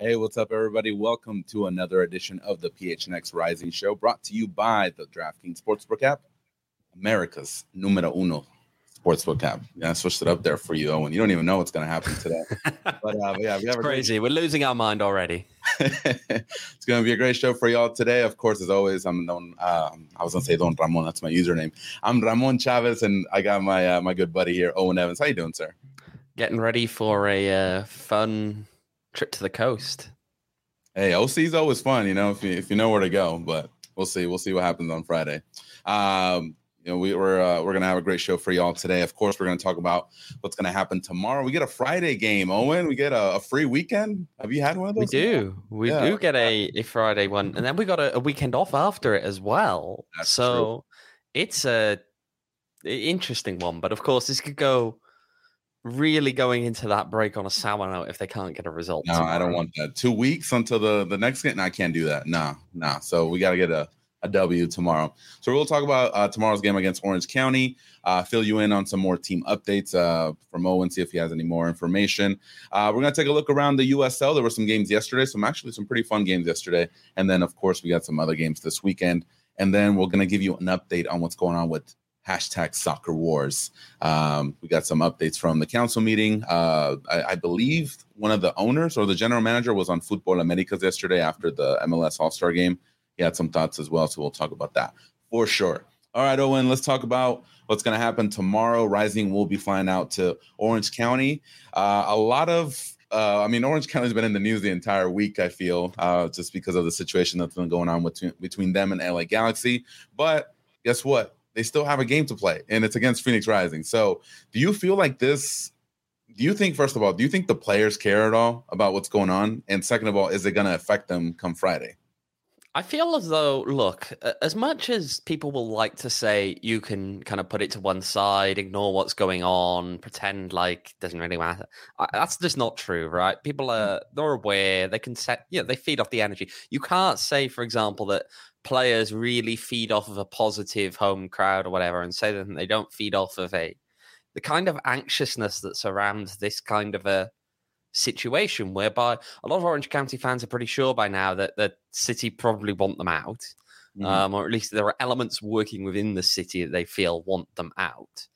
Hey, what's up, everybody? Welcome to another edition of the PHNX Rising Show, brought to you by the DraftKings Sportsbook app, America's numero uno sportsbook app. Yeah, I switched it up there for you, Owen. You don't even know what's going to happen today. But yeah, we have crazy. We're losing our mind already. It's going to be a great show for y'all today. Of course, as always, I'm Don. I was going to say Don Ramon. That's my username. I'm Ramon Chavez, and I got my good buddy here, Owen Evans. How you doing, sir? Getting ready for a fun trip to the coast. Hey, OC is always fun, if you know where to go. But we'll see. We'll see what happens on Friday. We're gonna have a great show for y'all today. Of course, we're gonna talk about what's gonna happen tomorrow. We get a Friday game, Owen. We get a free weekend. Have you had one of those? We do get a Friday one, and then we got a weekend off after it as well. That's true. It's a interesting one, but of course, this could go really going into that break on a sour note if they can't get a result. No, tomorrow. I don't want that. 2 weeks until the next game. No, I can't do that. Nah. So we got to get a W tomorrow. So we'll talk about tomorrow's game against Orange County, fill you in on some more team updates from Owen, see if he has any more information. We're going to take a look around the USL. There were some games yesterday, some pretty fun games yesterday. And then, of course, we got some other games this weekend. And then we're going to give you an update on what's going on with #SoccerWars. We got some updates from the council meeting. I believe one of the owners or the general manager was on Football Americas yesterday after the MLS All-Star game. He had some thoughts as well, so we'll talk about that for sure. All right, Owen, let's talk about what's going to happen tomorrow. Rising will be flying out to Orange County. Orange County's been in the news the entire week, I feel, just because of the situation that's been going on between them and LA Galaxy. But guess what? They still have a game to play, and it's against Phoenix Rising. So do you feel like this? Do you think, first of all, the players care at all about what's going on? And second of all, is it going to affect them come Friday? I feel as though, look, as much as people will like to say you can kind of put it to one side, ignore what's going on, pretend like it doesn't really matter. That's just not true, right? People they're aware, they can they feed off the energy. You can't say, for example, that players really feed off of a positive home crowd or whatever and say that they don't feed off of the kind of anxiousness that surrounds this kind of a situation, whereby a lot of Orange County fans are pretty sure by now that the city probably want them out, or at least there are elements working within the city that they feel want them out.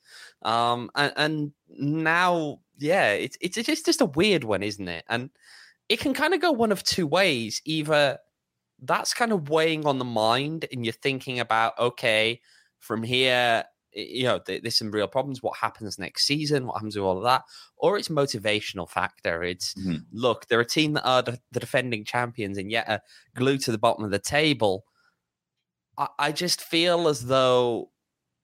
And now, it's just a weird one, isn't it? And it can kind of go one of two ways. Either that's kind of weighing on the mind and you're thinking about, okay, from here, there's some real problems. What happens next season? What happens with all of that? Or it's motivational factor. It's, look, they're a team that are the defending champions and yet are glued to the bottom of the table. I just feel as though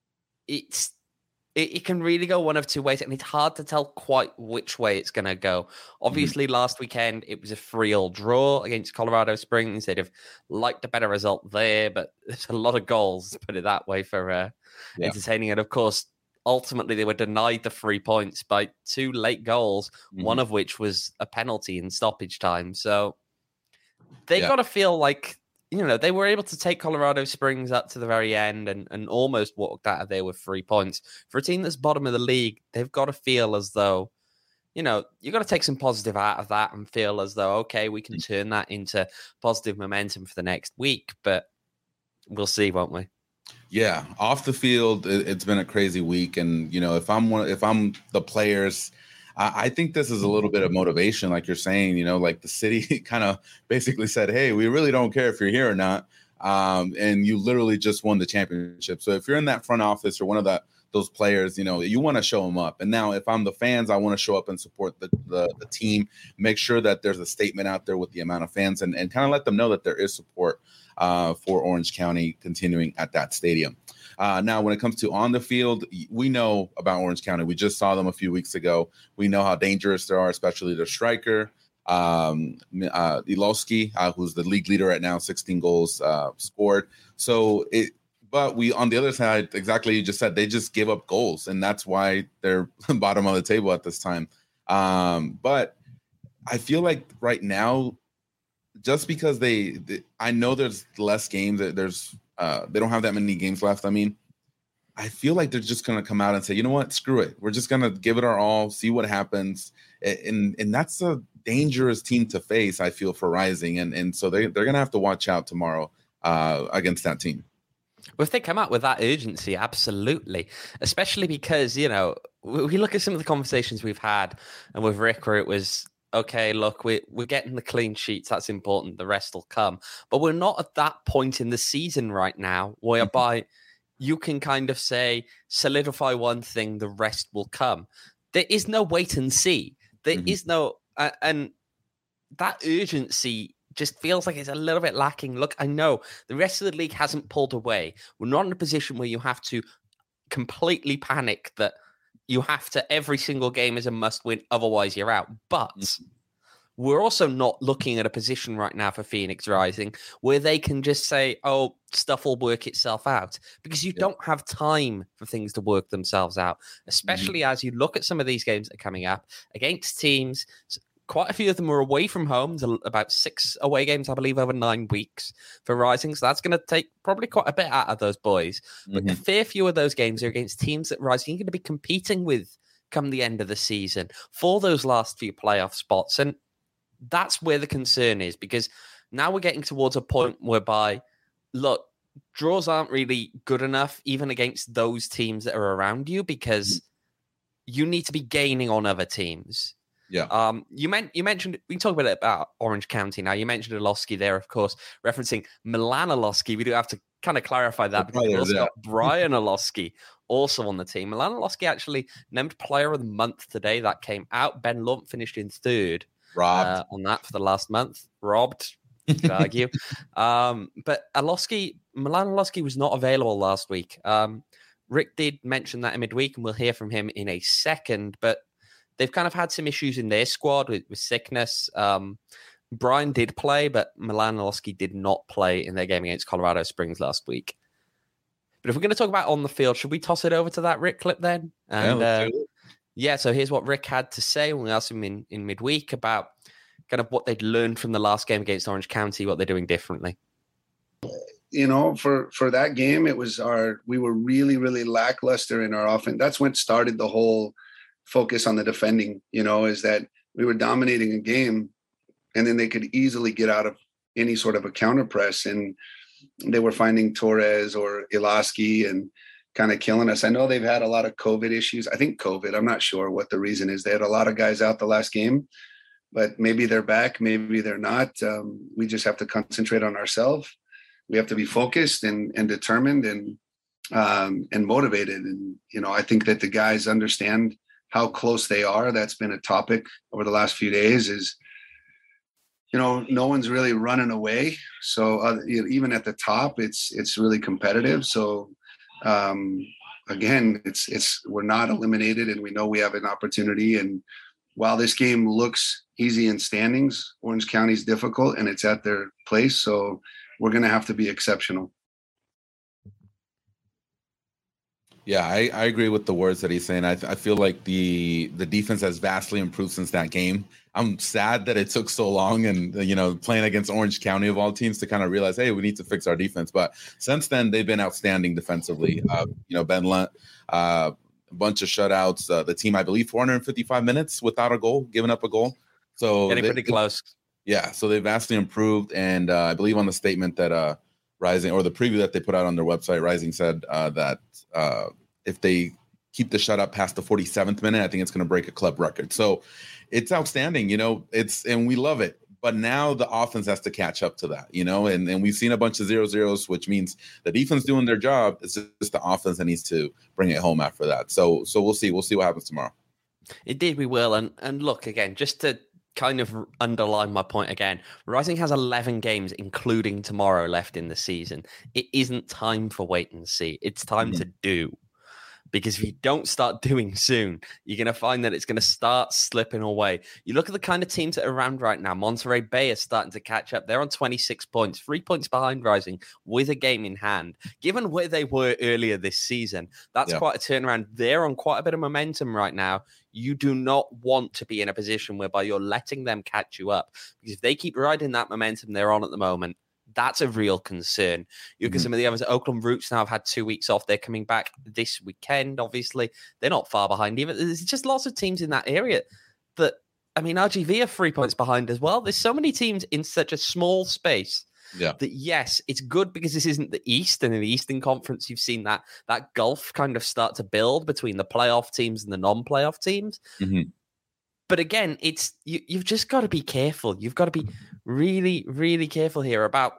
it can really go one of two ways, and it's hard to tell quite which way it's going to go. Obviously, last weekend, it was a 3-3 draw against Colorado Springs. They'd have liked a better result there, but there's a lot of goals, to put it that way, for entertaining. And, of course, ultimately, they were denied the 3 points by 2 late goals, one of which was a penalty in stoppage time. So they got to feel like, they were able to take Colorado Springs up to the very end and almost walked out of there with 3 points. For a team that's bottom of the league, they've got to feel as though, you've got to take some positive out of that and feel as though, okay, we can turn that into positive momentum for the next week. But we'll see, won't we? Yeah, off the field, it's been a crazy week. And, if I'm the players, I think this is a little bit of motivation, like you're saying, like the city kind of basically said, hey, we really don't care if you're here or not. And you literally just won the championship. So if you're in that front office or one of those players, you want to show them up. And now if I'm the fans, I want to show up and support the team, make sure that there's a statement out there with the amount of fans and kind of let them know that there is support for Orange County continuing at that stadium. Now, when it comes to on the field, we know about Orange County. We just saw them a few weeks ago. We know how dangerous they are, especially their striker, Ilowski, who's the league leader right now, 16 goals scored. But we, on the other side, exactly you just said, they just give up goals, and that's why they're bottom of the table at this time. But I feel like right now, just because I know there's less games, they don't have that many games left. I mean, I feel like they're just going to come out and say, you know what, screw it. We're just going to give it our all, see what happens. And that's a dangerous team to face, I feel, for Rising. And so they're going to have to watch out tomorrow against that team. Well, if they come out with that urgency, absolutely. Especially because, we look at some of the conversations we've had and with Rick where it was, okay, look, we're getting the clean sheets. That's important. The rest will come. But we're not at that point in the season right now whereby you can kind of say, solidify one thing, the rest will come. There is no wait and see. There is no, and that urgency just feels like it's a little bit lacking. Look, I know the rest of the league hasn't pulled away. We're not in a position where you have to completely panic that you have to, every single game is a must win, otherwise you're out. But we're also not looking at a position right now for Phoenix Rising where they can just say, oh, stuff will work itself out, because you don't have time for things to work themselves out, especially as you look at some of these games that are coming up against teams. Quite a few of them are away from home. There's about 6 away games, I believe, over 9 weeks for Rising. So that's going to take probably quite a bit out of those boys. But a fair few of those games are against teams that Rising are going to be competing with come the end of the season for those last few playoff spots. And that's where the concern is, because now we're getting towards a point whereby, look, draws aren't really good enough even against those teams that are around you, because you need to be gaining on other teams. Yeah. You mentioned, we can talk about Orange County now. You mentioned Oloski there, of course, referencing Milan Oloski. We do have to kind of clarify that, because we've also got Brian Oloski also on the team. Milan Oloski actually named Player of the Month today. That came out. Ben Lunt finished in 3rd on that for the last month. Robbed, you could argue. But Milan Oloski was not available last week. Rick did mention that in midweek, and we'll hear from him in a second. But they've kind of had some issues in their squad with sickness. Brian did play, but Milan Oloski did not play in their game against Colorado Springs last week. But if we're going to talk about on the field, should we toss it over to that Rick clip then? And so here's what Rick had to say when we asked him in midweek about kind of what they'd learned from the last game against Orange County, what they're doing differently. For that game, we were really, really lackluster in our offense. That's when started the whole focus on the defending, is that we were dominating a game and then they could easily get out of any sort of a counter press, and they were finding Torres or Ilaski and kind of killing us. I know they've had a lot of COVID issues. I think COVID, I'm not sure what the reason is. They had a lot of guys out the last game, but maybe they're back, maybe they're not. We just have to concentrate on ourselves. We have to be focused and determined and motivated. And, I think that the guys understand how close they are. That's been a topic over the last few days is, no one's really running away. So even at the top, it's really competitive. So again, we're not eliminated, and we know we have an opportunity. And while this game looks easy in standings, Orange County's difficult and it's at their place. So we're going to have to be exceptional. Yeah, I agree with the words that he's saying. I feel like the defense has vastly improved since that game. I'm sad that it took so long and, playing against Orange County of all teams to kind of realize, hey, we need to fix our defense. But since then, they've been outstanding defensively. Ben Lunt, a bunch of shutouts. The team, I believe, 455 minutes without a goal, giving up a goal. So getting pretty close. Yeah, so they've vastly improved. And I believe on the statement that Rising, or the preview that they put out on their website, Rising said that if they keep the shutout past the 47th minute, I think it's going to break a club record. So it's outstanding, and we love it. But now the offense has to catch up to that, and we've seen a bunch of 0-0s, which means the defense doing their job. It's just the offense that needs to bring it home after that. So we'll see. We'll see what happens tomorrow. Indeed, we will. And look, again, just to kind of underline my point again, Rising has 11 games, including tomorrow, left in the season. It isn't time for wait and see. It's time to do. Because if you don't start doing soon, you're going to find that it's going to start slipping away. You look at the kind of teams that are around right now. Monterey Bay is starting to catch up. They're on 26 points, 3 points behind Rising with a game in hand. Given where they were earlier this season, that's quite a turnaround. They're on quite a bit of momentum right now. You do not want to be in a position whereby you're letting them catch you up. Because if they keep riding that momentum they're on at the moment, that's a real concern. You look at some of the others. Oakland Roots now have had 2 weeks off. They're coming back this weekend, obviously. They're not far behind either. There's just lots of teams in that area that I mean, RGV are 3 points behind as well. There's so many teams in such a small space. Yeah. That yes, it's good because this isn't the East, and in the Eastern Conference, you've seen that gulf kind of start to build between the playoff teams and the non-playoff teams. Mm-hmm. But again, it's you've just got to be careful. You've got to be really, really careful here about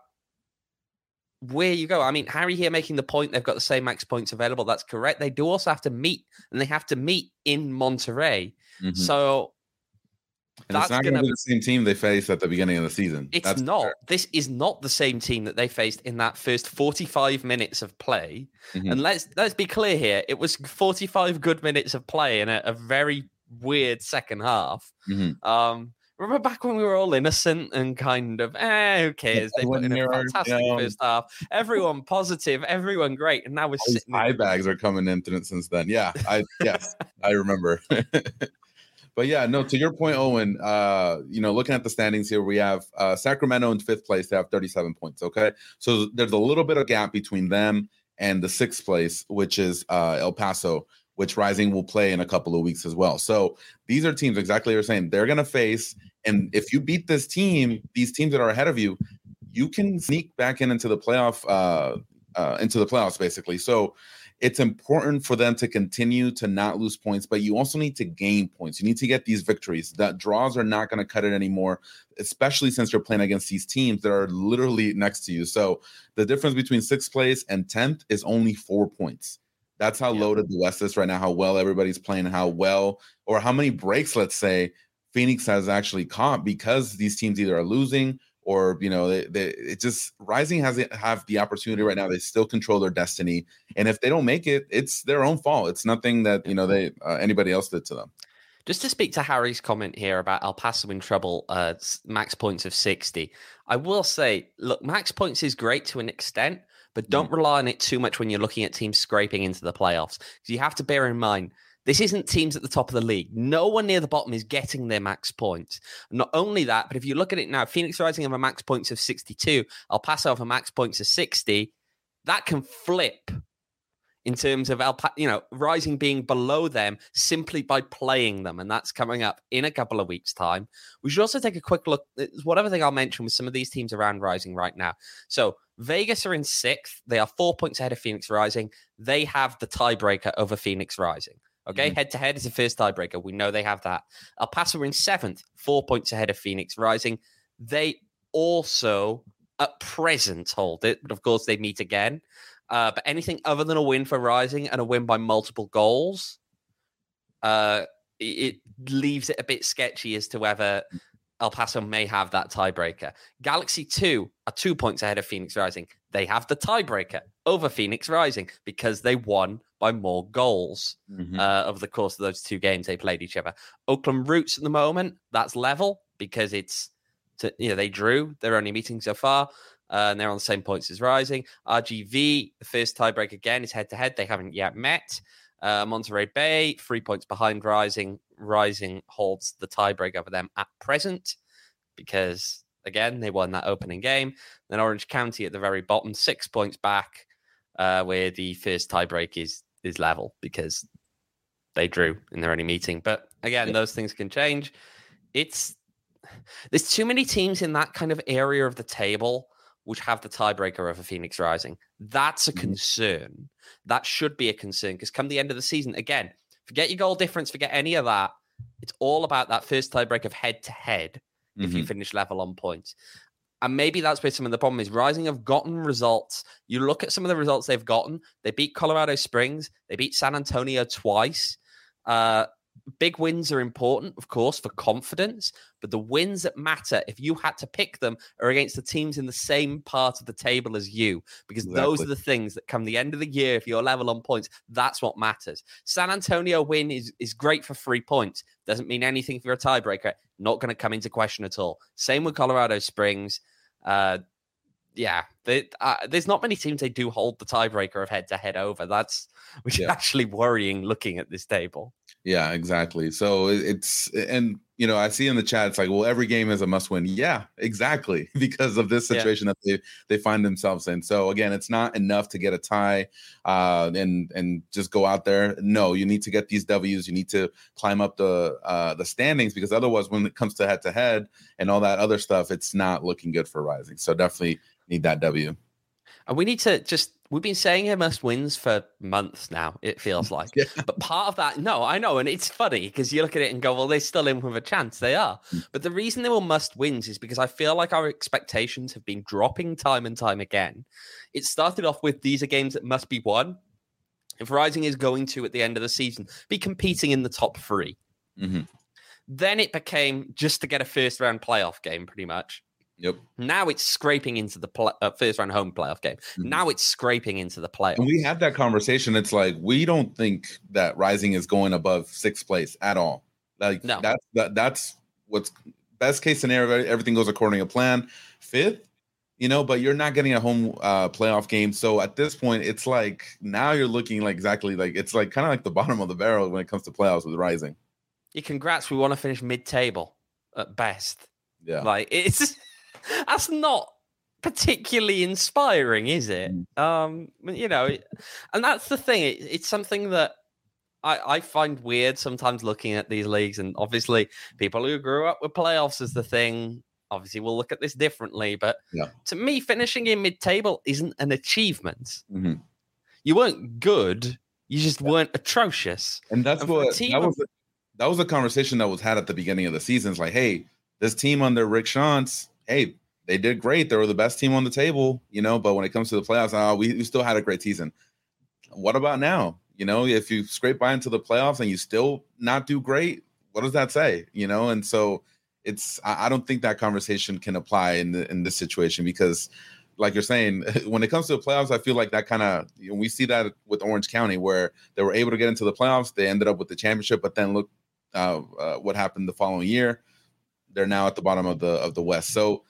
where you go. I mean, Harry here making the point they've got the same max points available. That's correct. They do also have to meet, and they have to meet in Monterrey. Mm-hmm. So. And it's not going to be the same team they faced at the beginning of the season. It's not. Fair. This is not the same team that they faced in that first 45 minutes of play. Mm-hmm. And let's be clear here. It was 45 good minutes of play in a very weird second half. Mm-hmm. Remember back when we were all innocent and kind of, who cares? They put in a fantastic first half. Everyone positive, everyone great. And now we're sitting. Eye bags are coming in since then. Yeah, I remember. But yeah, no, to your point, Owen, looking at the standings here, we have Sacramento in 5th place. They have 37 points, okay? So there's a little bit of gap between them and the 6th place, which is El Paso, which Rising will play in a couple of weeks as well. So these are teams, exactly what you're saying, they're going to face, and if you beat this team, these teams that are ahead of you, you can sneak back into the playoffs, basically. So it's important for them to continue to not lose points, but you also need to gain points. You need to get these victories. That draws are not going to cut it anymore, especially since you're playing against these teams that are literally next to you. So the difference between 6th place and 10th is only 4 points. That's how loaded the West is right now, how well everybody's playing, how well, or how many breaks, let's say, Phoenix has actually caught because these teams either are losing or, it just Rising have the opportunity right now. They still control their destiny. And if they don't make it, it's their own fault. It's nothing that, anybody else did to them. Just to speak to Harry's comment here about El Paso in trouble, max points of 60. I will say, look, max points is great to an extent, but don't rely on it too much when you're looking at teams scraping into the playoffs. Because you have to bear in mind, this isn't teams at the top of the league. No one near the bottom is getting their max points. Not only that, but if you look at it now, Phoenix Rising have a max points of 62, El Paso have a max points of 60. That can flip in terms of Rising being below them simply by playing them. And that's coming up in a couple of weeks' time. We should also take a quick look at whatever thing I'll mention with some of these teams around Rising right now. So Vegas are in 6th. They are 4 points ahead of Phoenix Rising. They have the tiebreaker over Phoenix Rising. Okay, head-to-head is the first tiebreaker. We know they have that. El Paso are in 7th, 4 points ahead of Phoenix Rising. They also, at present, hold it, but of course they meet again. But anything other than a win for Rising and a win by multiple goals, it leaves it a bit sketchy as to whether El Paso may have that tiebreaker. Galaxy 2 are 2 points ahead of Phoenix Rising. They have the tiebreaker over Phoenix Rising because they won by more goals over the course of those 2 games they played each other. Oakland Roots at the moment, that's level because they drew. They're only meeting so far. And they're on the same points as Rising. RGV, the first tiebreak again, is head-to-head. They haven't yet met. Monterey Bay, 3 points behind Rising. Rising holds the tiebreak over them at present because, again, they won that opening game. Then Orange County at the very bottom, 6 points back, where the first tiebreak is level because they drew in their only meeting. But, again, those things can change. There's too many teams in that kind of area of the table which have the tiebreaker over Phoenix Rising. That's a concern. That should be a concern because come the end of the season, again, forget your goal difference, forget any of that. It's all about that first tiebreak of head-to-head if you finish level on points. And maybe that's where some of the problem is. Rising have gotten results. You look at some of the results they've gotten. They beat Colorado Springs. They beat San Antonio twice. Big wins are important, of course, for confidence, but the wins that matter, if you had to pick them, are against the teams in the same part of the table as you, because those are the things that come the end of the year, if you're level on points, that's what matters. San Antonio win is great for 3 points. Doesn't mean anything if you're a tiebreaker. Not going to come into question at all. Same with Colorado Springs. There's not many teams they do hold the tiebreaker of head-to-head over. Which is actually worrying looking at this table. Yeah, exactly. So and I see in the chat, it's like, well, every game is a must win. Yeah, exactly. Because of this situation that they find themselves in. So again, it's not enough to get a tie and just go out there. No, you need to get these W's. You need to climb up the standings, because otherwise when it comes to head to head and all that other stuff, it's not looking good for Rising. So definitely need that W. And we need to we've been saying it must wins for months now, it feels like. Yeah. But part of that, no, I know. And it's funny because you look at it and go, well, they're still in with a chance. They are. But the reason they were must wins is because I feel like our expectations have been dropping time and time again. It started off with these are games that must be won. If Rising is going to, at the end of the season, be competing in the top 3. Mm-hmm. Then it became just to get a first round playoff game, pretty much. Yep. Now it's scraping into the first round home playoff game. Mm-hmm. Now it's scraping into the playoffs. And we had that conversation. It's like, we don't think that Rising is going above 6th place at all. Like, no. That's what's best case scenario. Everything goes according to plan. 5th, but you're not getting a home playoff game. So at this point, it's like now you're looking like exactly like it's like kind of like the bottom of the barrel when it comes to playoffs with Rising. Yeah, congrats. We want to finish mid-table at best. Yeah. Like, that's not particularly inspiring, is it? And that's the thing. It's something that I find weird sometimes looking at these leagues, and obviously people who grew up with playoffs as the thing, obviously will look at this differently. But to me, finishing in mid-table isn't an achievement. Mm-hmm. You weren't good. You just weren't atrocious. And that was a conversation that was had at the beginning of the season. It's like, hey, this team under Rick Schantz, hey, they did great. They were the best team on the table, but when it comes to the playoffs, we still had a great season. What about now? If you scrape by into the playoffs and you still not do great, what does that say? And so I don't think that conversation can apply in this situation, because like you're saying, when it comes to the playoffs, I feel like that kind of, we see that with Orange County, where they were able to get into the playoffs. They ended up with the championship, but then look what happened the following year. They're now at the bottom of the West. So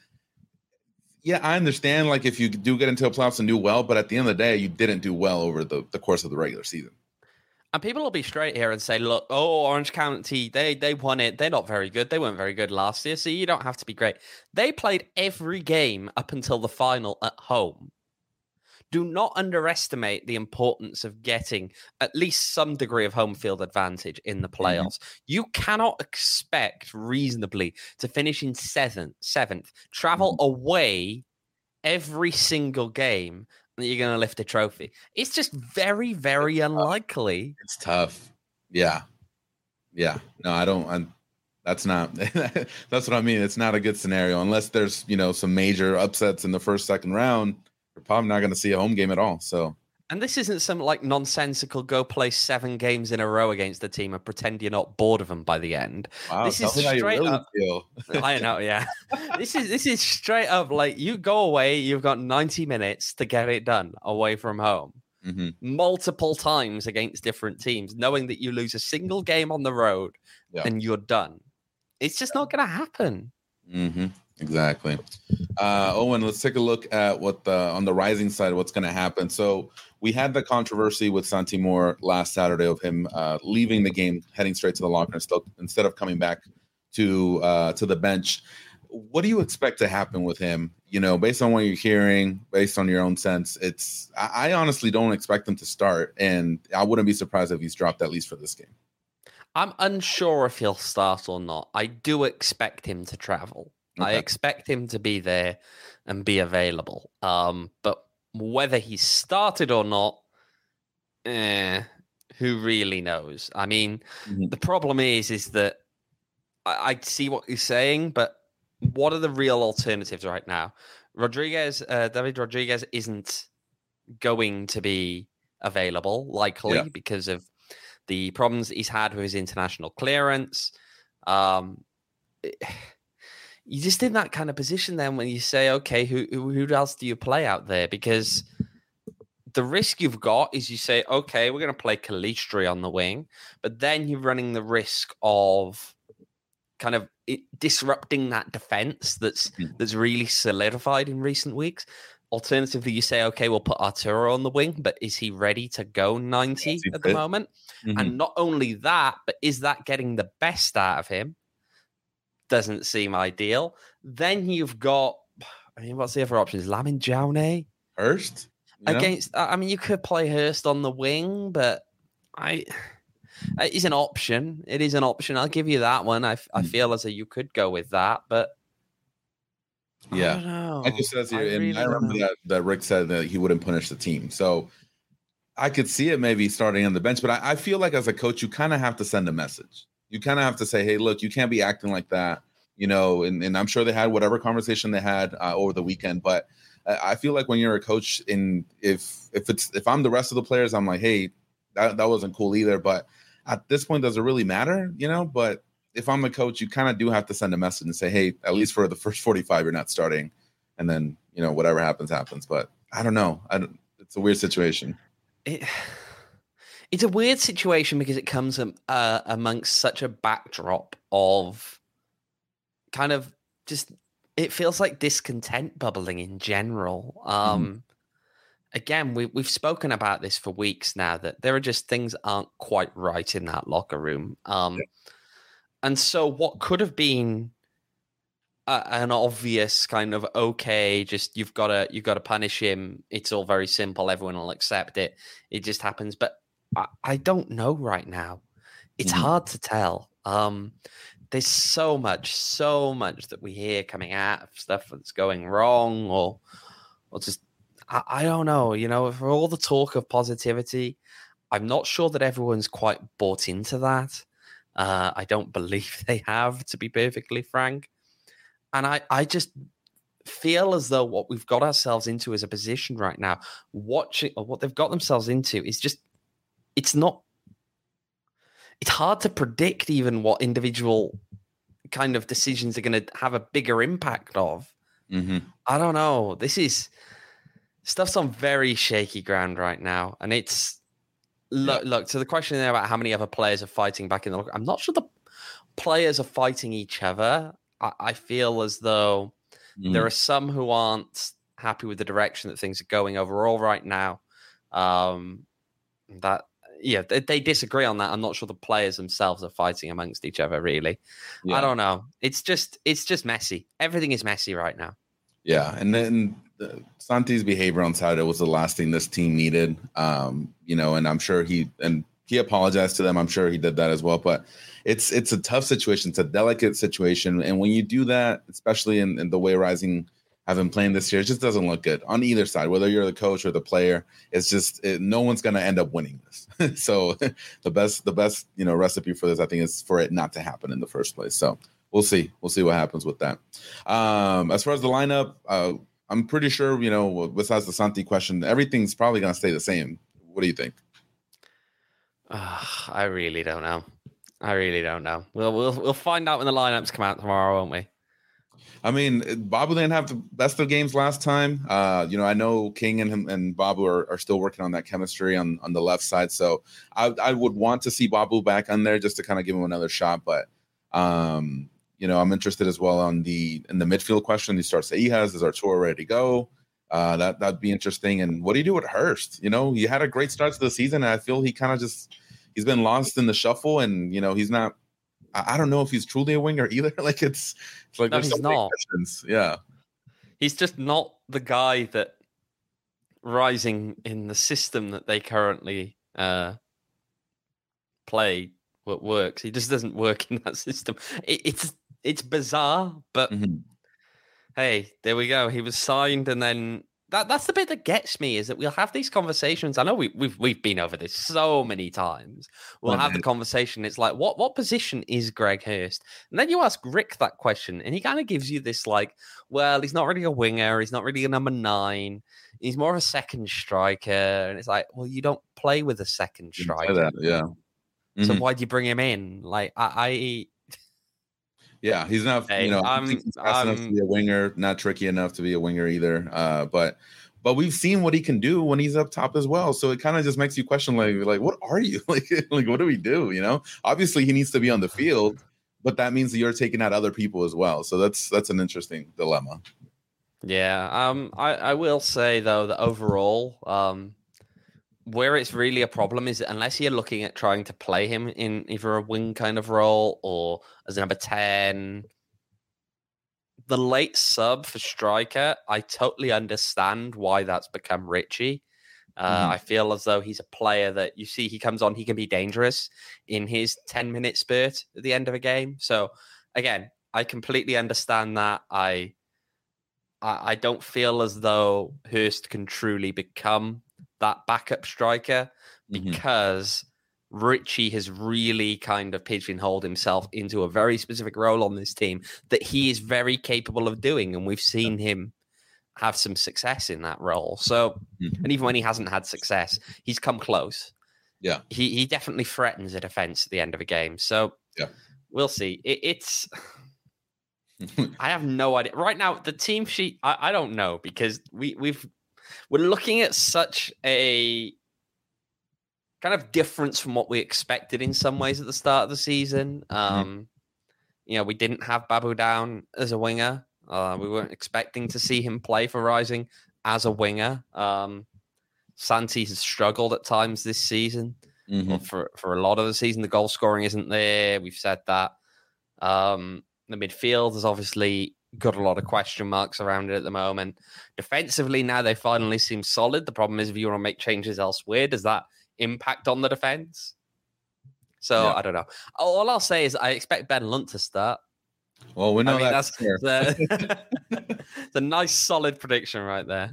yeah, I understand, like, if you do get into the playoffs and do well, but at the end of the day, you didn't do well over the course of the regular season. And people will be straight here and say, look, Orange County, they won it. They're not very good. They weren't very good last year, so you don't have to be great. They played every game up until the final at home. Do not underestimate the importance of getting at least some degree of home field advantage in the playoffs. Mm-hmm. You cannot expect reasonably to finish in seventh, travel away every single game that you're going to lift a trophy. It's just very, very unlikely. It's tough. Yeah. No, I don't. That's not. That's what I mean. It's not a good scenario unless there's some major upsets in the first, second round. You're probably not going to see a home game at all. So, and this isn't some like nonsensical go play 7 games in a row against the team and pretend you're not bored of them by the end. Wow, this is straight up. I know, yeah. This is straight up like you go away. You've got 90 minutes to get it done away from home, multiple times against different teams, knowing that you lose a single game on the road and you're done. It's just not going to happen. Mm-hmm. Exactly. Owen, let's take a look at what on the Rising side, what's going to happen. So we had the controversy with Santi Moore last Saturday of him leaving the game, heading straight to the locker instead of coming back to the bench. What do you expect to happen with him? Based on what you're hearing, based on your own sense, I honestly don't expect him to start, and I wouldn't be surprised if he's dropped at least for this game. I'm unsure if he'll start or not. I do expect him to travel. Okay. I expect him to be there and be available. But whether he started or not, who really knows? I mean, the problem is that I see what you're saying, but what are the real alternatives right now? David Rodriguez isn't going to be available, likely, because of the problems that he's had with his international clearance. You just in that kind of position then when you say, okay, who else do you play out there? Because the risk you've got is you say, okay, we're going to play Calistri on the wing, but then you're running the risk of kind of disrupting that defense that's really solidified in recent weeks. Alternatively, you say, okay, we'll put Arturo on the wing, but is he ready to go 90 at the moment? And not only that, but is that getting the best out of him? doesn't seem ideal. Then you've got, I mean, what's the other options? Lamin Jaune? Hurst? Against, I mean, you could play Hurst on the wing, but it's an option. It is an option. I'll give you that one. I feel as though you could go with that, but yeah, I don't know. I just says here, really I remember that Rick said that he wouldn't punish the team. So I could see it maybe starting on the bench, but I feel like as a coach, you kind of have to send a message. You kind of have to say, hey, look, you can't be acting like that, and I'm sure they had whatever conversation they had over the weekend, but I feel like when you're a coach, if I'm the rest of the players, I'm like, hey, that wasn't cool either. But at this point, does it really matter? But if I'm a coach, you kind of do have to send a message and say, hey, at least for the first 45, you're not starting. And then, whatever happens. But I don't know. It's a weird situation. It's a weird situation because it comes amongst such a backdrop of kind of just, it feels like discontent bubbling in general. Again, we've spoken about this for weeks now, that there are just things aren't quite right in that locker room. And so what could have been an obvious kind of, okay, just you've got to punish him. It's all very simple. Everyone will accept it. It just happens. But I don't know right now. It's hard to tell. There's so much that we hear coming out of stuff that's going wrong, or just, I don't know. For all the talk of positivity, I'm not sure that everyone's quite bought into that. I don't believe they have, to be perfectly frank. And I just feel as though what we've got ourselves into as a position right now, what they've got themselves into is just, it's hard to predict even what individual kind of decisions are going to have a bigger impact of. I don't know. Stuff's on very shaky ground right now. And it's, look, to the question there about how many other players are fighting back in the locker, I'm not sure the players are fighting each other. I feel as though there are some who aren't happy with the direction that things are going overall right now. They disagree on that. I'm not sure the players themselves are fighting amongst each other, really. Yeah. I don't know. It's just messy. Everything is messy right now. Yeah, and then Santi's behavior on Saturday was the last thing this team needed. And I'm sure he apologized to them. I'm sure he did that as well. But it's a tough situation. It's a delicate situation. And when you do that, especially in the way Rising have been playing this year, it just doesn't look good on either side, whether you're the coach or the player. It's just no one's going to end up winning this. So the best recipe for this, I think, is for it not to happen in the first place. So we'll see what happens with that. As far as the lineup, I'm pretty sure, besides the Santi question, everything's probably going to stay the same. What do you think? I really don't know. We'll find out when the lineups come out tomorrow, won't we? I mean, Babu didn't have the best of games last time. I know King and Babu are still working on that chemistry on the left side. So I would want to see Babu back on there just to kind of give him another shot. But, I'm interested as well in the midfield question. He starts Seijas. Is Arturo ready to go? That'd be interesting. And what do you do with Hurst? He had a great start to the season, and I feel he kind of he's been lost in the shuffle, and he's not. I don't know if he's truly a winger either. Like it's like no, he's not. Questions. Yeah, he's just not the guy that Rising in the system that they currently play what works. He just doesn't work in that system. It's bizarre, but hey, there we go. He was signed, and then that's the bit that gets me, is that we'll have these conversations. I know we've been over this so many times. We'll have the conversation. It's like, what position is Greg Hurst? And then you ask Rick that question, and he kind of gives you this like, well, he's not really a winger. He's not really a number 9. He's more of a second striker. And it's like, well, you don't play with a second striker. That, yeah. So why do you bring him in? Like, yeah, he's not. Hey, he's fast enough to be a winger, not tricky enough to be a winger either. But we've seen what he can do when he's up top as well. So it kind of just makes you question, like, what are you like what do we do? Obviously he needs to be on the field, but that means that you're taking out other people as well. So that's an interesting dilemma. Yeah. I will say though that overall, where it's really a problem is that unless you're looking at trying to play him in either a wing kind of role or as a number 10, the late sub for striker, I totally understand why that's become Richie. I feel as though he's a player that you see he comes on, he can be dangerous in his 10-minute spurt at the end of a game. So again, I completely understand that. I don't feel as though Hurst can truly become that backup striker because Richie has really kind of pigeonholed himself into a very specific role on this team that he is very capable of doing. And we've seen him have some success in that role. So, and even when he hasn't had success, he's come close. Yeah. He definitely threatens a defense at the end of a game. So we'll see. It's I have no idea. Right now, the team sheet, I don't know because we're looking at such a kind of difference from what we expected in some ways at the start of the season. We didn't have Babu down as a winger. We weren't expecting to see him play for Rising as a winger. Santi has struggled at times this season. Well, for a lot of the season, the goal scoring isn't there. We've said that. The midfield has obviously got a lot of question marks around it at the moment. Defensively, now they finally seem solid. The problem is if you want to make changes elsewhere, does that impact on the defense? So I don't know. All I'll say is I expect Ben Lunt to start. Well, we know that's it's a nice solid prediction right there.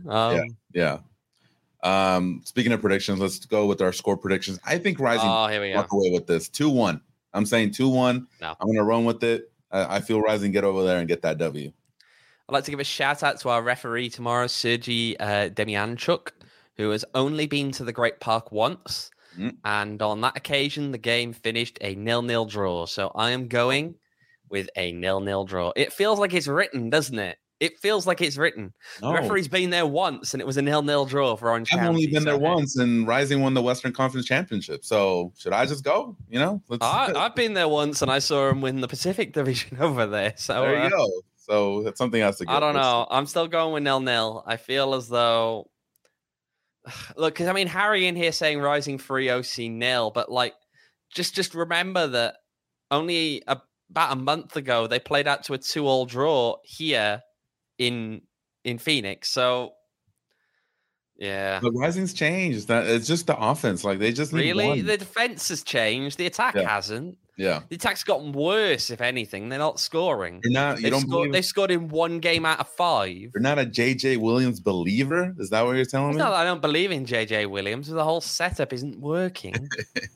Speaking of predictions, let's go with our score predictions. I think Rising walk away with this 2-1. I'm saying 2-1. No. I'm going to run with it. I feel Rising get over there and get that W. I'd like to give a shout out to our referee tomorrow, Sergei Demianchuk, who has only been to the Great Park once. And on that occasion, the game finished a 0-0 draw. So I am going with a 0-0 draw. It feels like it's written, doesn't it? It feels like it's written. No. The referee's been there once, and it was a 0-0 draw for Orange County. I've only been there once, and Rising won the Western Conference Championship. So should I just go? I've been there once, and I saw him win the Pacific Division over there. So there you go. So that's something else to get. I don't know. I'm still going with 0-0. I feel as though... Look, because Harry in here saying Rising 3, OC 0, but just remember that only about a month ago they played out to a 2-2 draw here in Phoenix. So yeah, but Rising's changed. That it's just the offense. They just need one. The defense has changed. The attack hasn't. Yeah, the attack's gotten worse. If anything, they're not scoring. They scored in 1 game out of 5. You're not a JJ Williams believer. Is that what you're telling me? No, I don't believe in JJ Williams. The whole setup isn't working.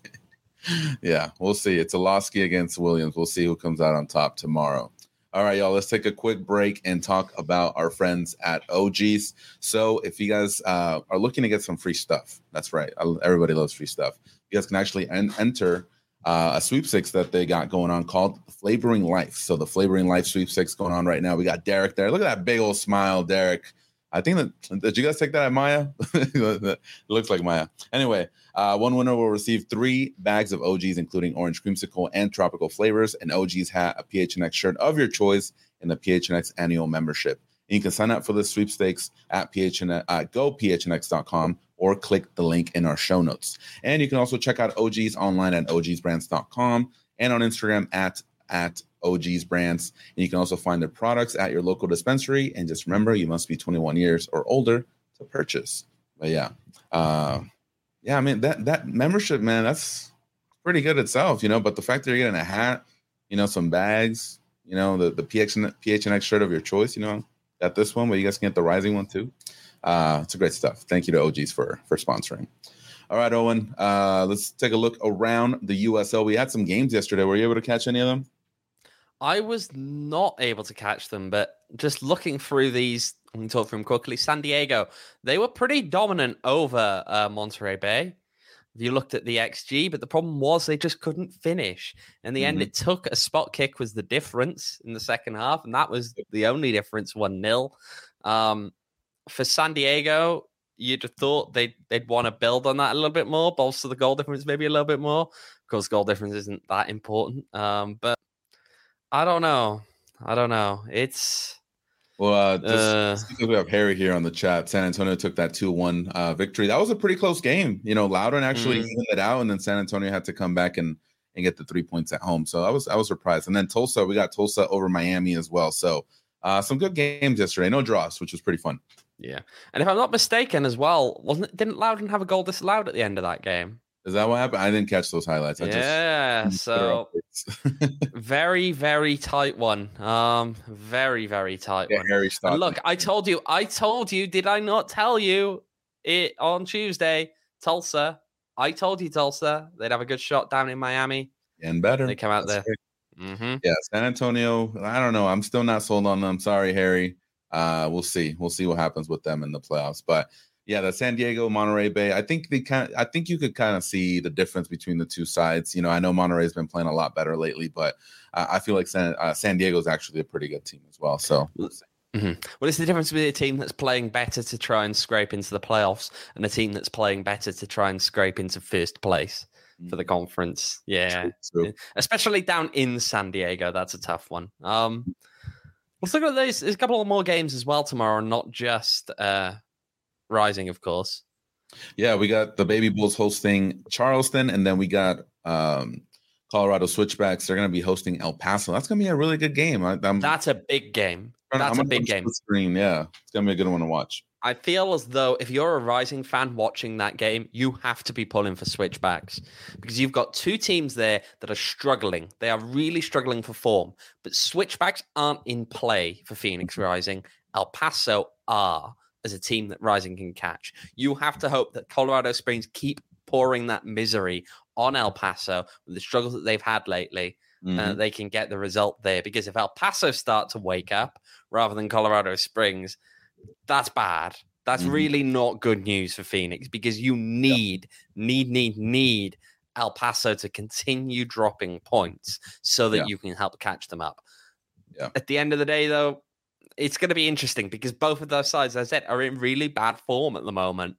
Yeah, we'll see. It's Olowski against Williams. We'll see who comes out on top tomorrow. All right, y'all, let's take a quick break and talk about our friends at OGs. So if you guys are looking to get some free stuff, that's right. Everybody loves free stuff. You guys can actually enter a sweepstakes that they got going on called Flavoring Life. So the Flavoring Life sweepstakes going on right now. We got Derek there. Look at that big old smile, Derek. I think did you guys take that at Maya? It looks like Maya. Anyway, one winner will receive 3 bags of OGs, including orange creamsicle and tropical flavors, an OGs hat, a PHNX shirt of your choice, and the PHNX annual membership. And you can sign up for the sweepstakes at gophnx.com or click the link in our show notes. And you can also check out OGs online at ogsbrands.com and on Instagram at OGs Brands. And you can also find their products at your local dispensary. And just remember, you must be 21 years or older to purchase. But that membership, man, that's pretty good itself, But the fact that you're getting a hat, some bags, the PHNX shirt of your choice, got this one, but you guys can get the Rising one too. It's a great stuff. Thank you to OGs for sponsoring. All right, Owen, let's take a look around the USL. We had some games yesterday. Were you able to catch any of them? I was not able to catch them, but just looking through these, we can talk through them quickly. San Diego, they were pretty dominant over Monterey Bay. If you looked at the XG, but the problem was they just couldn't finish. In the end, it took a spot kick was the difference in the second half, and that was the only difference, 1-0. For San Diego, you'd have thought they'd want to build on that a little bit more, bolster the goal difference maybe a little bit more. Of course, goal difference isn't that important, but I don't know. It's... Well, just because we have Harry here on the chat, San Antonio took that 2-1 victory. That was a pretty close game. Loudoun actually evened it out, and then San Antonio had to come back and get the 3 points at home. So I was surprised. And then Tulsa, we got Tulsa over Miami as well. So some good games yesterday. No draws, which was pretty fun. Yeah. And if I'm not mistaken as well, didn't Loudon have a goal disallowed at the end of that game? Is that what happened? I didn't catch those highlights. So very, very tight one. Very, very tight one. Harry and look, I told you, did I not tell you it on Tuesday? Tulsa. I told you Tulsa. They'd have a good shot down in Miami. And better. They come out there. Mm-hmm. Yeah, San Antonio. I don't know. I'm still not sold on them. Sorry, Harry. We'll see. We'll see what happens with them in the playoffs. But yeah, the San Diego, Monterey Bay. I think you could kind of see the difference between the two sides. I know Monterey's been playing a lot better lately, but I feel like San Diego is actually a pretty good team as well. So we'll see. Mm-hmm. Well, it's the difference between a team that's playing better to try and scrape into the playoffs and a team that's playing better to try and scrape into first place for the conference. Yeah. True. Especially down in San Diego. That's a tough one. Let's look at these. There's a couple of more games as well tomorrow, not just Rising, of course. Yeah, we got the Baby Bulls hosting Charleston, and then we got Colorado Switchbacks. They're going to be hosting El Paso. That's going to be a really good game. That's a big game. That's a big game. Screen, yeah, it's going to be a good one to watch. I feel as though if you're a Rising fan watching that game, you have to be pulling for Switchbacks because you've got two teams there that are struggling. They are really struggling for form, but Switchbacks aren't in play for Phoenix Rising. El Paso are as a team that Rising can catch. You have to hope that Colorado Springs keep pouring that misery on El Paso with the struggles that they've had lately. They can get the result there because if El Paso start to wake up rather than Colorado Springs, that's bad. That's really not good news for Phoenix because you need El Paso to continue dropping points so that you can help catch them up. Yeah. At the end of the day, though, it's going to be interesting because both of those sides, as I said, are in really bad form at the moment.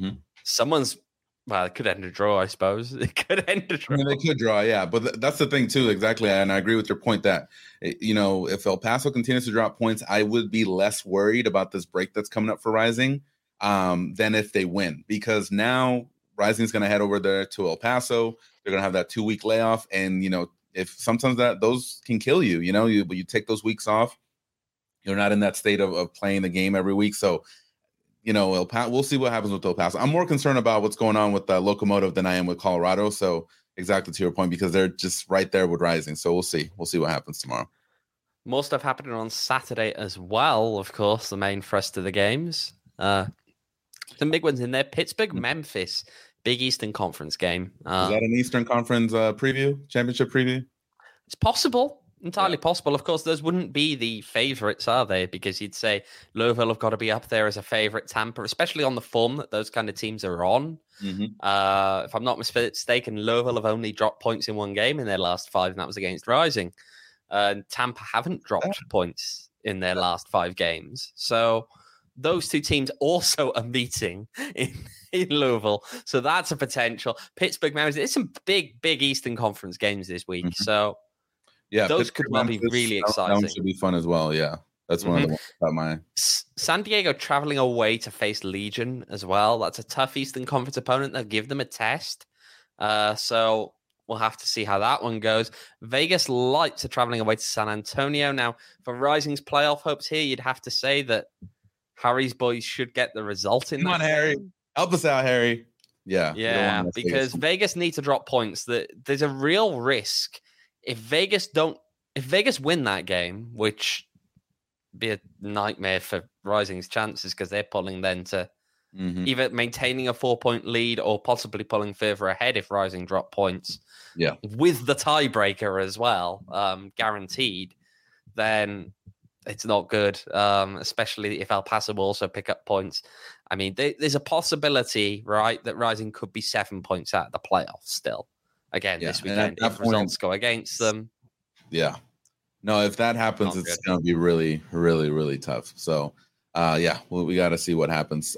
Well, it could end a draw, I suppose. It could end a draw. I mean, they could draw, yeah. But that's the thing, too, exactly. And I agree with your point that, if El Paso continues to drop points, I would be less worried about this break that's coming up for Rising than if they win. Because now Rising is going to head over there to El Paso. They're going to have that 2-week layoff. And, if sometimes those can kill you, you take those weeks off. You're not in that state of playing the game every week. So, we'll see what happens with El Paso. I'm more concerned about what's going on with Locomotive than I am with Colorado. So exactly to your point, because they're just right there with Rising. So we'll see. We'll see what happens tomorrow. More stuff happening on Saturday as well, of course, the main thrust of the games. Some big ones in there. Pittsburgh, Memphis, Big Eastern Conference game. Is that an Eastern Conference championship preview? It's possible. Entirely possible. Of course, those wouldn't be the favorites, are they? Because you'd say Louisville have got to be up there as a favorite. Tampa, especially on the form that those kind of teams are on. If I'm not mistaken, Louisville have only dropped points in one game in their last 5, and that was against Rising. And Tampa haven't dropped points in their last 5 games. So those two teams also are meeting in Louisville. So that's a potential. Pittsburgh, Memphis. There's some big Eastern Conference games this week. So yeah, those could well be really exciting. That should be fun as well. Yeah, that's one of the ones about my. San Diego traveling away to face Legion as well. That's a tough Eastern Conference opponent. They'll give them a test. So we'll have to see how that one goes. Vegas Lights are traveling away to San Antonio. Now, for Rising's playoff hopes here, you'd have to say that Harry's boys should get the result in that. Come on, Harry. Help us out, Harry. Yeah, because Vegas need to drop points. There's a real risk. If Vegas win that game, which be a nightmare for Rising's chances because they're pulling then to either maintaining a 4-point lead or possibly pulling further ahead if Rising drop points. Yeah, with the tiebreaker as well, guaranteed. Then it's not good, especially if El Paso will also pick up points. I mean, there's a possibility, right, that Rising could be 7 points out of the playoffs still. Again, this weekend, if results go against them. Yeah. No, if that happens, it's going to be really, really, really tough. So, we got to see what happens.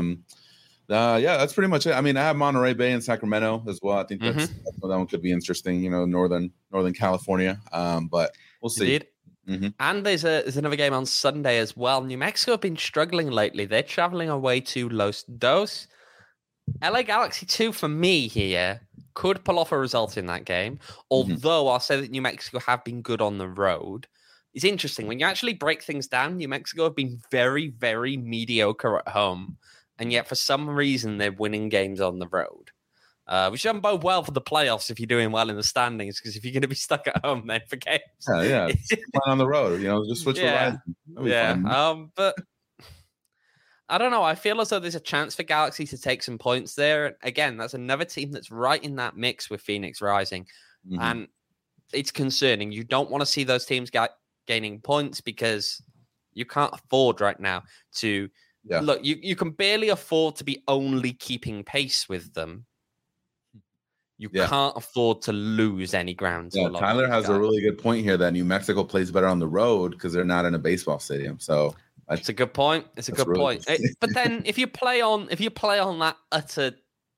That's pretty much it. I mean, I have Monterey Bay and Sacramento as well. I think that one could be interesting, Northern California. But we'll see. Indeed. And there's another game on Sunday as well. New Mexico have been struggling lately. They're traveling away to Los Dos. LA Galaxy 2 for me here could pull off a result in that game. Although I'll say that New Mexico have been good on the road. it's interesting. When you actually break things down, New Mexico have been very, very mediocre at home. And yet, for some reason, they're winning games on the road. Which doesn't bode well for the playoffs if you're doing well in the standings, because if you're going to be stuck at home, then for games. Yeah. On the road, just switch yeah. Fun. But I don't know. I feel as though there's a chance for Galaxy to take some points there. Again, that's another team that's right in that mix with Phoenix Rising. Mm-hmm. And it's concerning. You don't want to see those teams gaining points because you can't afford right now to... Yeah. Look, you can barely afford to be only keeping pace with them. You can't afford to lose any ground. Yeah, Tyler has a really good point here that New Mexico plays better on the road because they're not in a baseball stadium. So it's a good point. It's a good point. But then if you play on that utter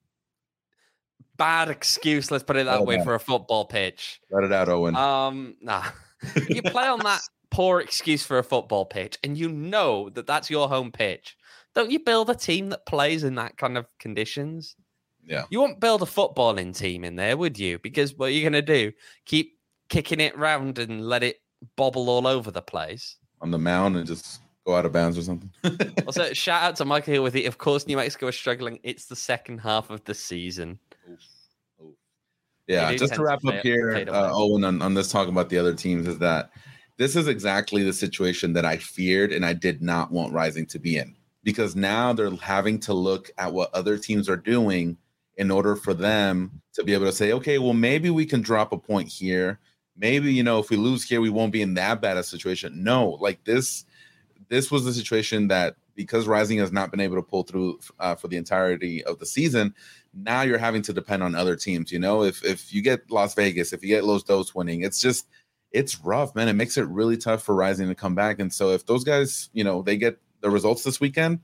bad excuse, let's put it that way, for a football pitch. Let it out, Owen. Nah. If you play on that poor excuse for a football pitch and you know that that's your home pitch, don't you build a team that plays in that kind of conditions? Yeah. You won't build a footballing team in there, would you? Because what are you going to do? Keep kicking it round and let it bobble all over the place? On the mound and just go out of bounds or something? Also, shout out to Michael Hill with it. Of course, New Mexico is struggling. It's the second half of the season. Oof. Yeah, just to wrap up here, Owen, on this talk about the other teams, is that this is exactly the situation that I feared and I did not want Rising to be in. Because now they're having to look at what other teams are doing in order for them to be able to say, okay, well, maybe we can drop a point here. Maybe, if we lose here, we won't be in that bad a situation. No, like this was the situation that because Rising has not been able to pull through for the entirety of the season, now you're having to depend on other teams. If you get Las Vegas, if you get Los Dos winning, it's rough, man. It makes it really tough for Rising to come back. And so if those guys, they get the results this weekend,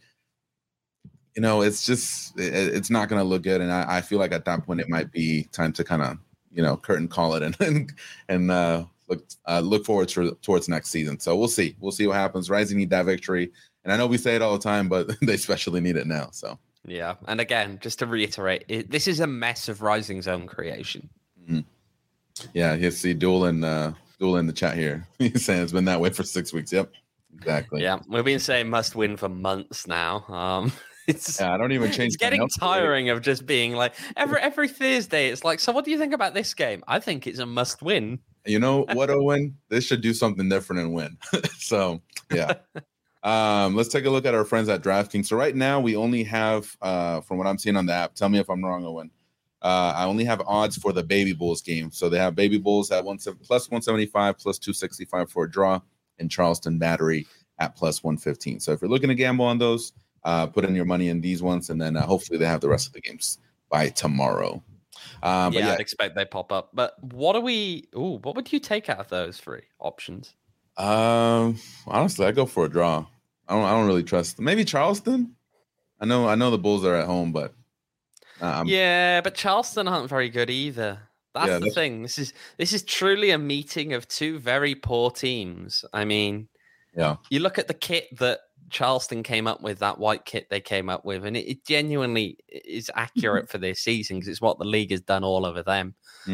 it's not going to look good. And I feel like at that point it might be time to kind of, curtain call it and look forward towards next season. So we'll see what happens. Rising need that victory. And I know we say it all the time, but they especially need it now. So, yeah. And again, just to reiterate, this is a mess of Rising's own creation. Mm-hmm. Yeah. You see Duel in the chat here. He's saying it's been that way for 6 weeks. Yep. Exactly. Yeah. We've been saying must win for months now. I don't even change. It's getting tiring of just being like every Thursday. It's like, so what do you think about this game? I think it's a must win. You know what, Owen? This should do something different and win. So yeah. Let's take a look at our friends at DraftKings. So right now we only have, from what I'm seeing on the app, tell me if I'm wrong, Owen. I only have odds for the Baby Bulls game. So they have Baby Bulls at plus 175, plus 265 for a draw, and Charleston Battery at plus 115. So if you're looking to gamble on those, put in your money in these ones, and then hopefully they have the rest of the games by tomorrow. I'd expect they pop up. But what would you take out of those three options? Honestly, I go for a draw. I don't really trust. Maybe Charleston. I know the Bulls are at home, but but Charleston aren't very good either. That's the thing. This is truly a meeting of two very poor teams. I mean, you look at the kit that Charleston came up with, that white kit they came up with, and it genuinely is accurate for their season because it's what the league has done all over them.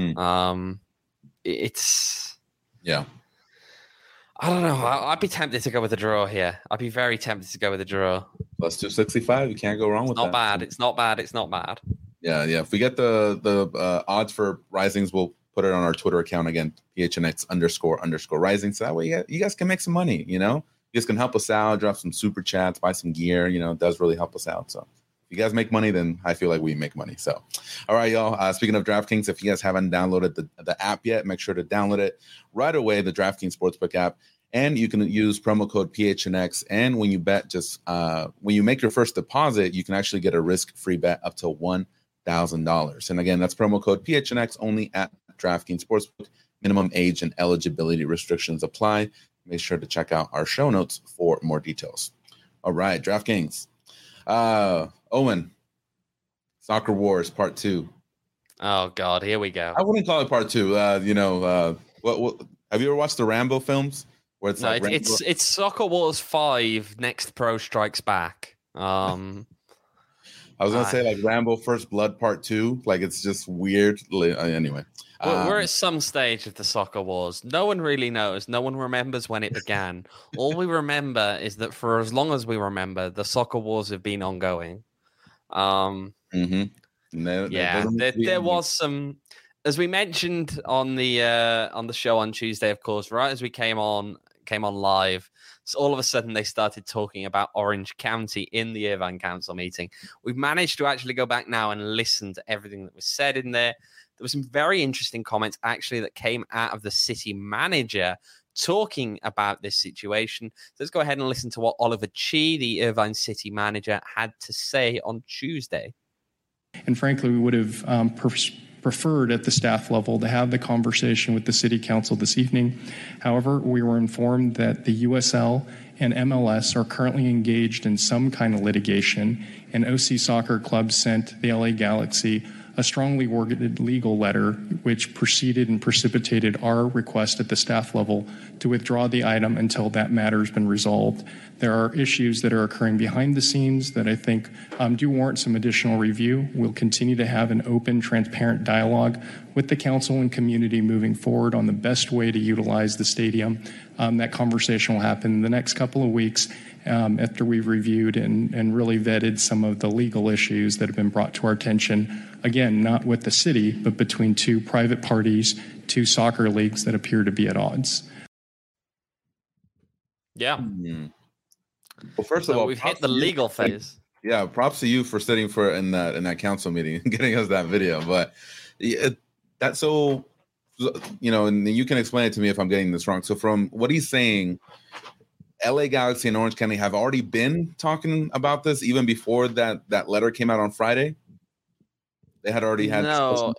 I don't know. I'd be tempted to go with a draw here. I'd be very tempted to go with a draw. Plus 265. You can't go wrong with that. It's not bad. Yeah. If we get the odds for Risings, we'll put it on our Twitter account again, PHNX__Rising. So that way you guys can make some money, You guys can help us out, drop some super chats, buy some gear. It does really help us out. So if you guys make money, then I feel like we make money. So, all right, y'all. Speaking of DraftKings, if you guys haven't downloaded the app yet, make sure to download it right away, the DraftKings Sportsbook app. And you can use promo code PHNX. And when you bet, when you make your first deposit, you can actually get a risk-free bet up to $1,000. And again, that's promo code PHNX only at DraftKings Sportsbook. Minimum age and eligibility restrictions apply. Make sure to check out our show notes for more details. All right, DraftKings. Owen, Soccer Wars Part 2. Oh God, here we go. I wouldn't call it Part 2. What have you ever watched the Rambo films? Where it's Soccer Wars 5. Next Pro Strikes Back. I was gonna say like Rambo First Blood Part 2. Like it's just weird. Anyway, we're at some stage of the soccer wars. No one really knows. No one remembers when it began. All we remember is that for as long as we remember, the soccer wars have been ongoing. There was some, as we mentioned on the show on Tuesday, of course, right as we came on live. So all of a sudden they started talking about Orange County in the Irvine Council meeting. We've managed to actually go back now and listen to everything that was said in there. There were some very interesting comments actually that came out of the city manager talking about this situation. So let's go ahead and listen to what Oliver Chi, the Irvine city manager, had to say on Tuesday. And frankly, we would have preferred at the staff level to have the conversation with the city council this evening. However, we were informed that the USL and MLS are currently engaged in some kind of litigation, and OC Soccer Club sent the LA Galaxy a strongly worded legal letter which preceded and precipitated our request at the staff level to withdraw the item until that matter has been resolved. There are issues that are occurring behind the scenes that I think do warrant some additional review. We'll continue to have an open, transparent dialogue with the council and community moving forward on the best way to utilize the stadium. That conversation will happen in the next couple of weeks after we've reviewed and really vetted some of the legal issues that have been brought to our attention. Again, not with the city, but between two private parties, two soccer leagues that appear to be at odds. Yeah. Well, first of all, we've hit the legal phase. Yeah, props to you for sitting in that council meeting and getting us that video. But that's so, and you can explain it to me if I'm getting this wrong. So from what he's saying, LA Galaxy and Orange County have already been talking about this even before that letter came out on Friday. They had already had. No,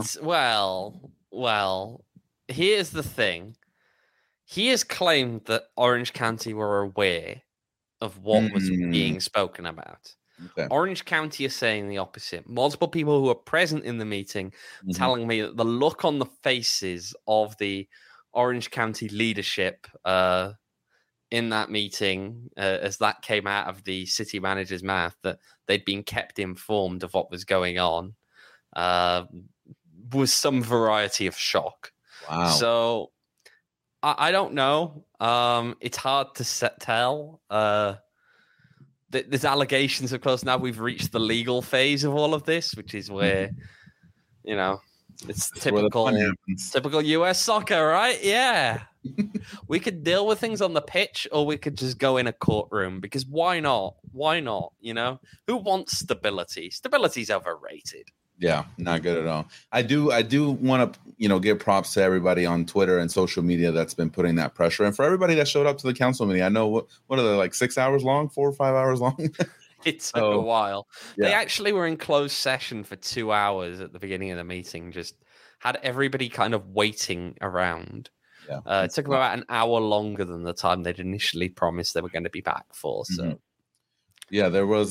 well. Here's the thing. He has claimed that Orange County were aware of what was being spoken about. Okay. Orange County is saying the opposite. Multiple people who were present in the meeting telling me that the look on the faces of the Orange County leadership in that meeting, as that came out of the city manager's mouth, that they'd been kept informed of what was going on, was some variety of shock. Wow. So I don't know. It's hard to tell. There's allegations, of course. Now we've reached the legal phase of all of this, which is where, it's typical US soccer, right? Yeah. We could deal with things on the pitch, or we could just go in a courtroom, because why not? Why not? Who wants stability? Stability's overrated. Yeah, not good at all. I do want to, give props to everybody on Twitter and social media that's been putting that pressure. And for everybody that showed up to the council meeting, I know what are they, like 6 hours long, 4 or 5 hours long? It took a while. Yeah. They actually were in closed session for 2 hours at the beginning of the meeting, just had everybody kind of waiting around. Yeah. It took them about an hour longer than the time they'd initially promised they were going to be back for. So, yeah, there was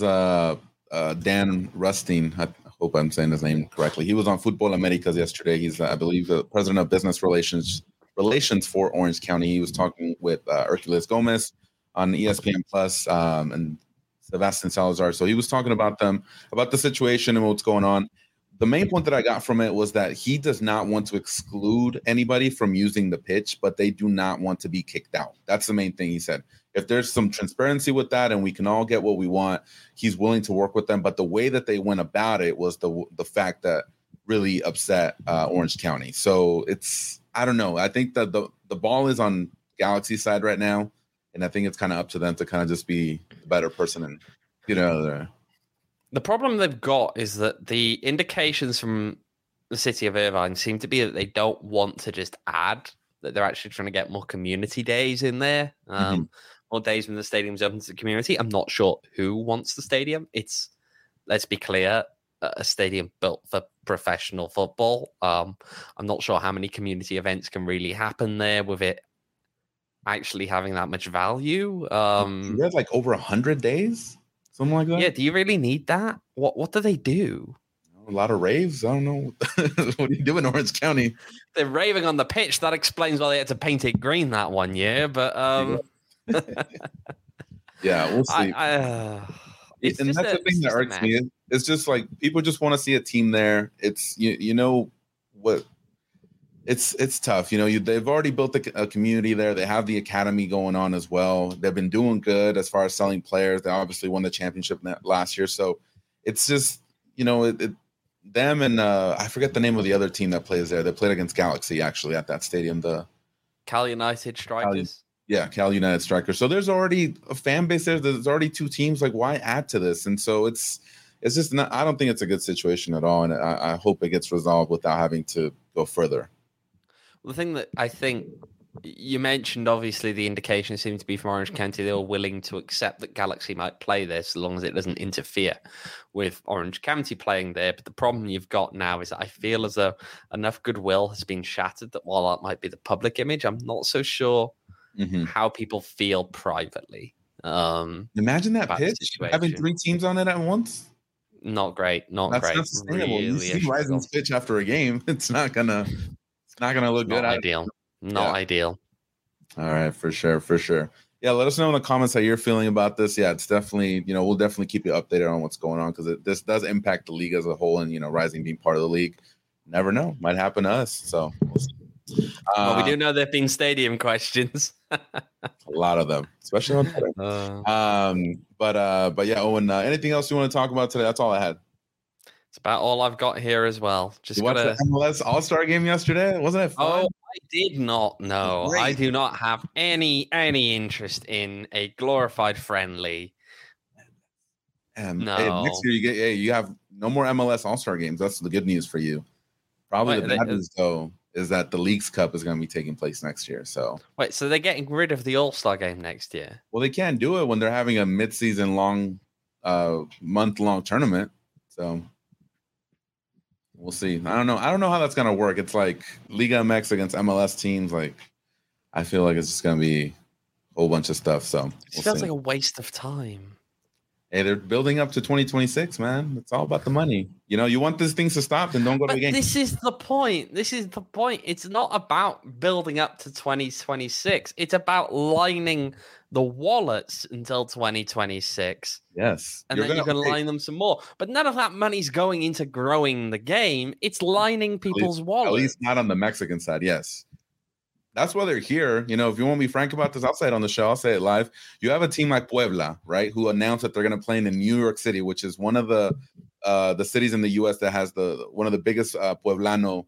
Dan Rustine. I hope I'm saying his name correctly. He was on Football Americas yesterday. He's, I believe, the president of business relations for Orange County. He was talking with Hercules Gomez on ESPN Plus and Sebastian Salazar. So he was talking about the situation and what's going on. The main point that I got from it was that he does not want to exclude anybody from using the pitch, but they do not want to be kicked out. That's the main thing he said. If there's some transparency with that and we can all get what we want, he's willing to work with them. But the way that they went about it was the fact that really upset Orange County. So I don't know. I think that the ball is on Galaxy's side right now. And I think it's kind of up to them to kind of just be a better person and get out of there. The problem they've got is that the indications from the city of Irvine seem to be that they don't want to just add, that they're actually trying to get more community days in there, more days when the stadium's open to the community. I'm not sure who wants the stadium. It's, let's be clear, a stadium built for professional football. I'm not sure how many community events can really happen there with it actually having that much value. You have like over 100 days? Something like that? Yeah, do you really need that? What do they do? A lot of raves? I don't know. What do you do in Orange County? They're raving on the pitch. That explains why they had to paint it green that one year. But yeah, we'll see. It's and just that's the thing that just a irks me. mess. It's just like people just want to see a team there. It's you know what. It's tough, they've already built a community there. They have the academy going on as well. They've been doing good as far as selling players. They obviously won the championship last year, so it's just them and I forget the name of the other team that plays there. They played against Galaxy actually at that stadium. The Cal United Strikers. Cal United Strikers. So there's already a fan base there. There's already two teams. Like, why add to this? And so it's just not. I don't think it's a good situation at all, and I hope it gets resolved without having to go further. The thing that I think you mentioned, obviously, the indication seemed to be from Orange County. They were willing to accept that Galaxy might play this as long as it doesn't interfere with Orange County playing there. But the problem you've got now is that I feel as though enough goodwill has been shattered that while that might be the public image, I'm not so sure how people feel privately. Imagine that pitch, having 3 teams on it at once. Not great. That's great. Not sustainable. Really, you see Rising's pitch after a game. It's not gonna look good. Ideal. Not ideal. All right, for sure. Yeah, let us know in the comments how you're feeling about this. Yeah, it's definitely, we'll definitely keep you updated on what's going on because this does impact the league as a whole, and Rising being part of the league. Never know, might happen to us. So we'll see. Well, we do know there've been stadium questions. A lot of them, especially on Twitter. But yeah, Owen, anything else you want to talk about today? That's all I had. It's about all I've got here as well. Just watched the MLS All-Star game yesterday. Wasn't it fun? Oh, I did not know. I do not have any interest in a glorified friendly. No. Hey, next year you have no more MLS All-Star games. That's the good news for you. Probably the bad news though is that the Leagues Cup is going to be taking place next year. So so they're getting rid of the All-Star game next year. Well, they can't do it when they're having a mid-season month-long tournament. So we'll see. I don't know how that's gonna work. It's like Liga MX against MLS teams. Like, I feel like it's just gonna be a whole bunch of stuff. So it feels like a waste of time. Hey, they're building up to 2026, man. It's all about the money. You want these things to stop, then don't go to the game. This is the point. It's not about building up to 2026. It's about lining the wallets until 2026. Yes. And then you're going to line them some more. But none of that money's going into growing the game. It's lining people's wallets. At least not on the Mexican side, yes. That's why they're here. If you want to be frank about this, I'll say it on the show. I'll say it live. You have a team like Puebla, right, who announced that they're going to play in New York City, which is one of the cities in the U.S. that has one of the biggest Pueblano,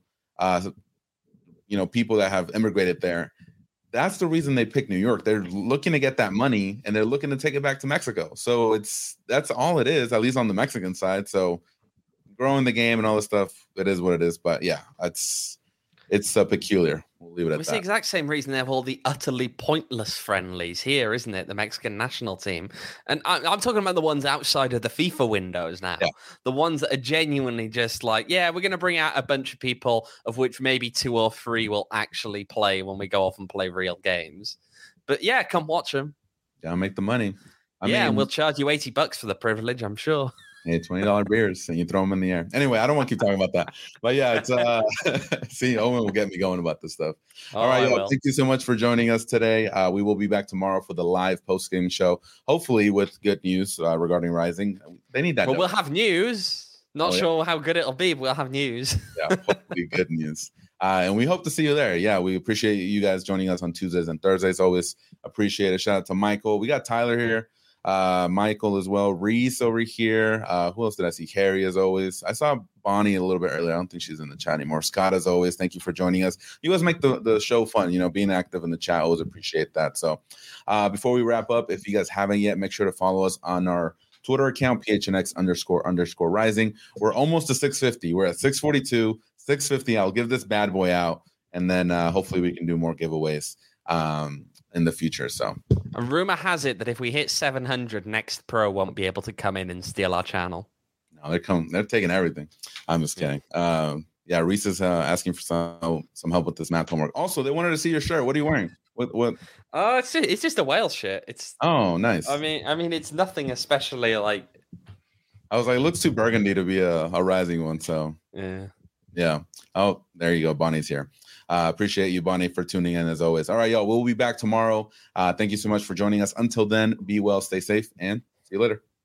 people that have immigrated there. That's the reason they picked New York. They're looking to get that money, and they're looking to take it back to Mexico. So that's all it is, at least on the Mexican side. So growing the game and all this stuff, it is what it is. But yeah, it's peculiar. We'll leave it at that. It's the exact same reason they have all the utterly pointless friendlies here, isn't it? The Mexican national team. And I'm talking about the ones outside of the FIFA windows now. Yeah. The ones that are genuinely just like, we're going to bring out a bunch of people, of which maybe 2 or 3 will actually play when we go off and play real games. But yeah, come watch them. Gotta make the money. I mean, and we'll charge you $80 for the privilege, I'm sure. Hey, $20 beers, and you throw them in the air. Anyway, I don't want to keep talking about that. But yeah, it's see, Owen will get me going about this stuff. All right, thank you so much for joining us today. We will be back tomorrow for the live post-game show, hopefully with good news regarding Rising. They need that. Well, we'll have news. Not sure how good it'll be, but we'll have news. Yeah, hopefully good news. And we hope to see you there. Yeah, we appreciate you guys joining us on Tuesdays and Thursdays. Always appreciate it. Shout out to Michael. We got Tyler here. Michael as well, Reese over here. Who else did I see? Harry, as always. I saw Bonnie a little bit earlier. I don't think she's in the chat anymore. Scott, as always, thank you for joining us. You guys make the show fun, being active in the chat. Always appreciate that. So before we wrap up, if you guys haven't yet, make sure to follow us on our Twitter account, PHNX__rising. We're almost to 650. We're at 642, 650. I'll give this bad boy out, and then hopefully we can do more giveaways in the future. So a rumor has it that if we hit 700, Next Pro won't be able to come in and steal our channel. No, they're taking everything. I'm just kidding. Yeah, Reese is asking for some help with this math homework. Also, they wanted to see your shirt. What are you wearing? What? Oh, it's just a whale shirt. Oh, nice. I mean, it's nothing especially like. I was like, it looks too burgundy to be a Rising one. So yeah. Oh, there you go. Bonnie's here. Appreciate you, Bonnie, for tuning in as always. All right, y'all. We'll be back tomorrow. Thank you so much for joining us. Until then, be well, stay safe, and see you later.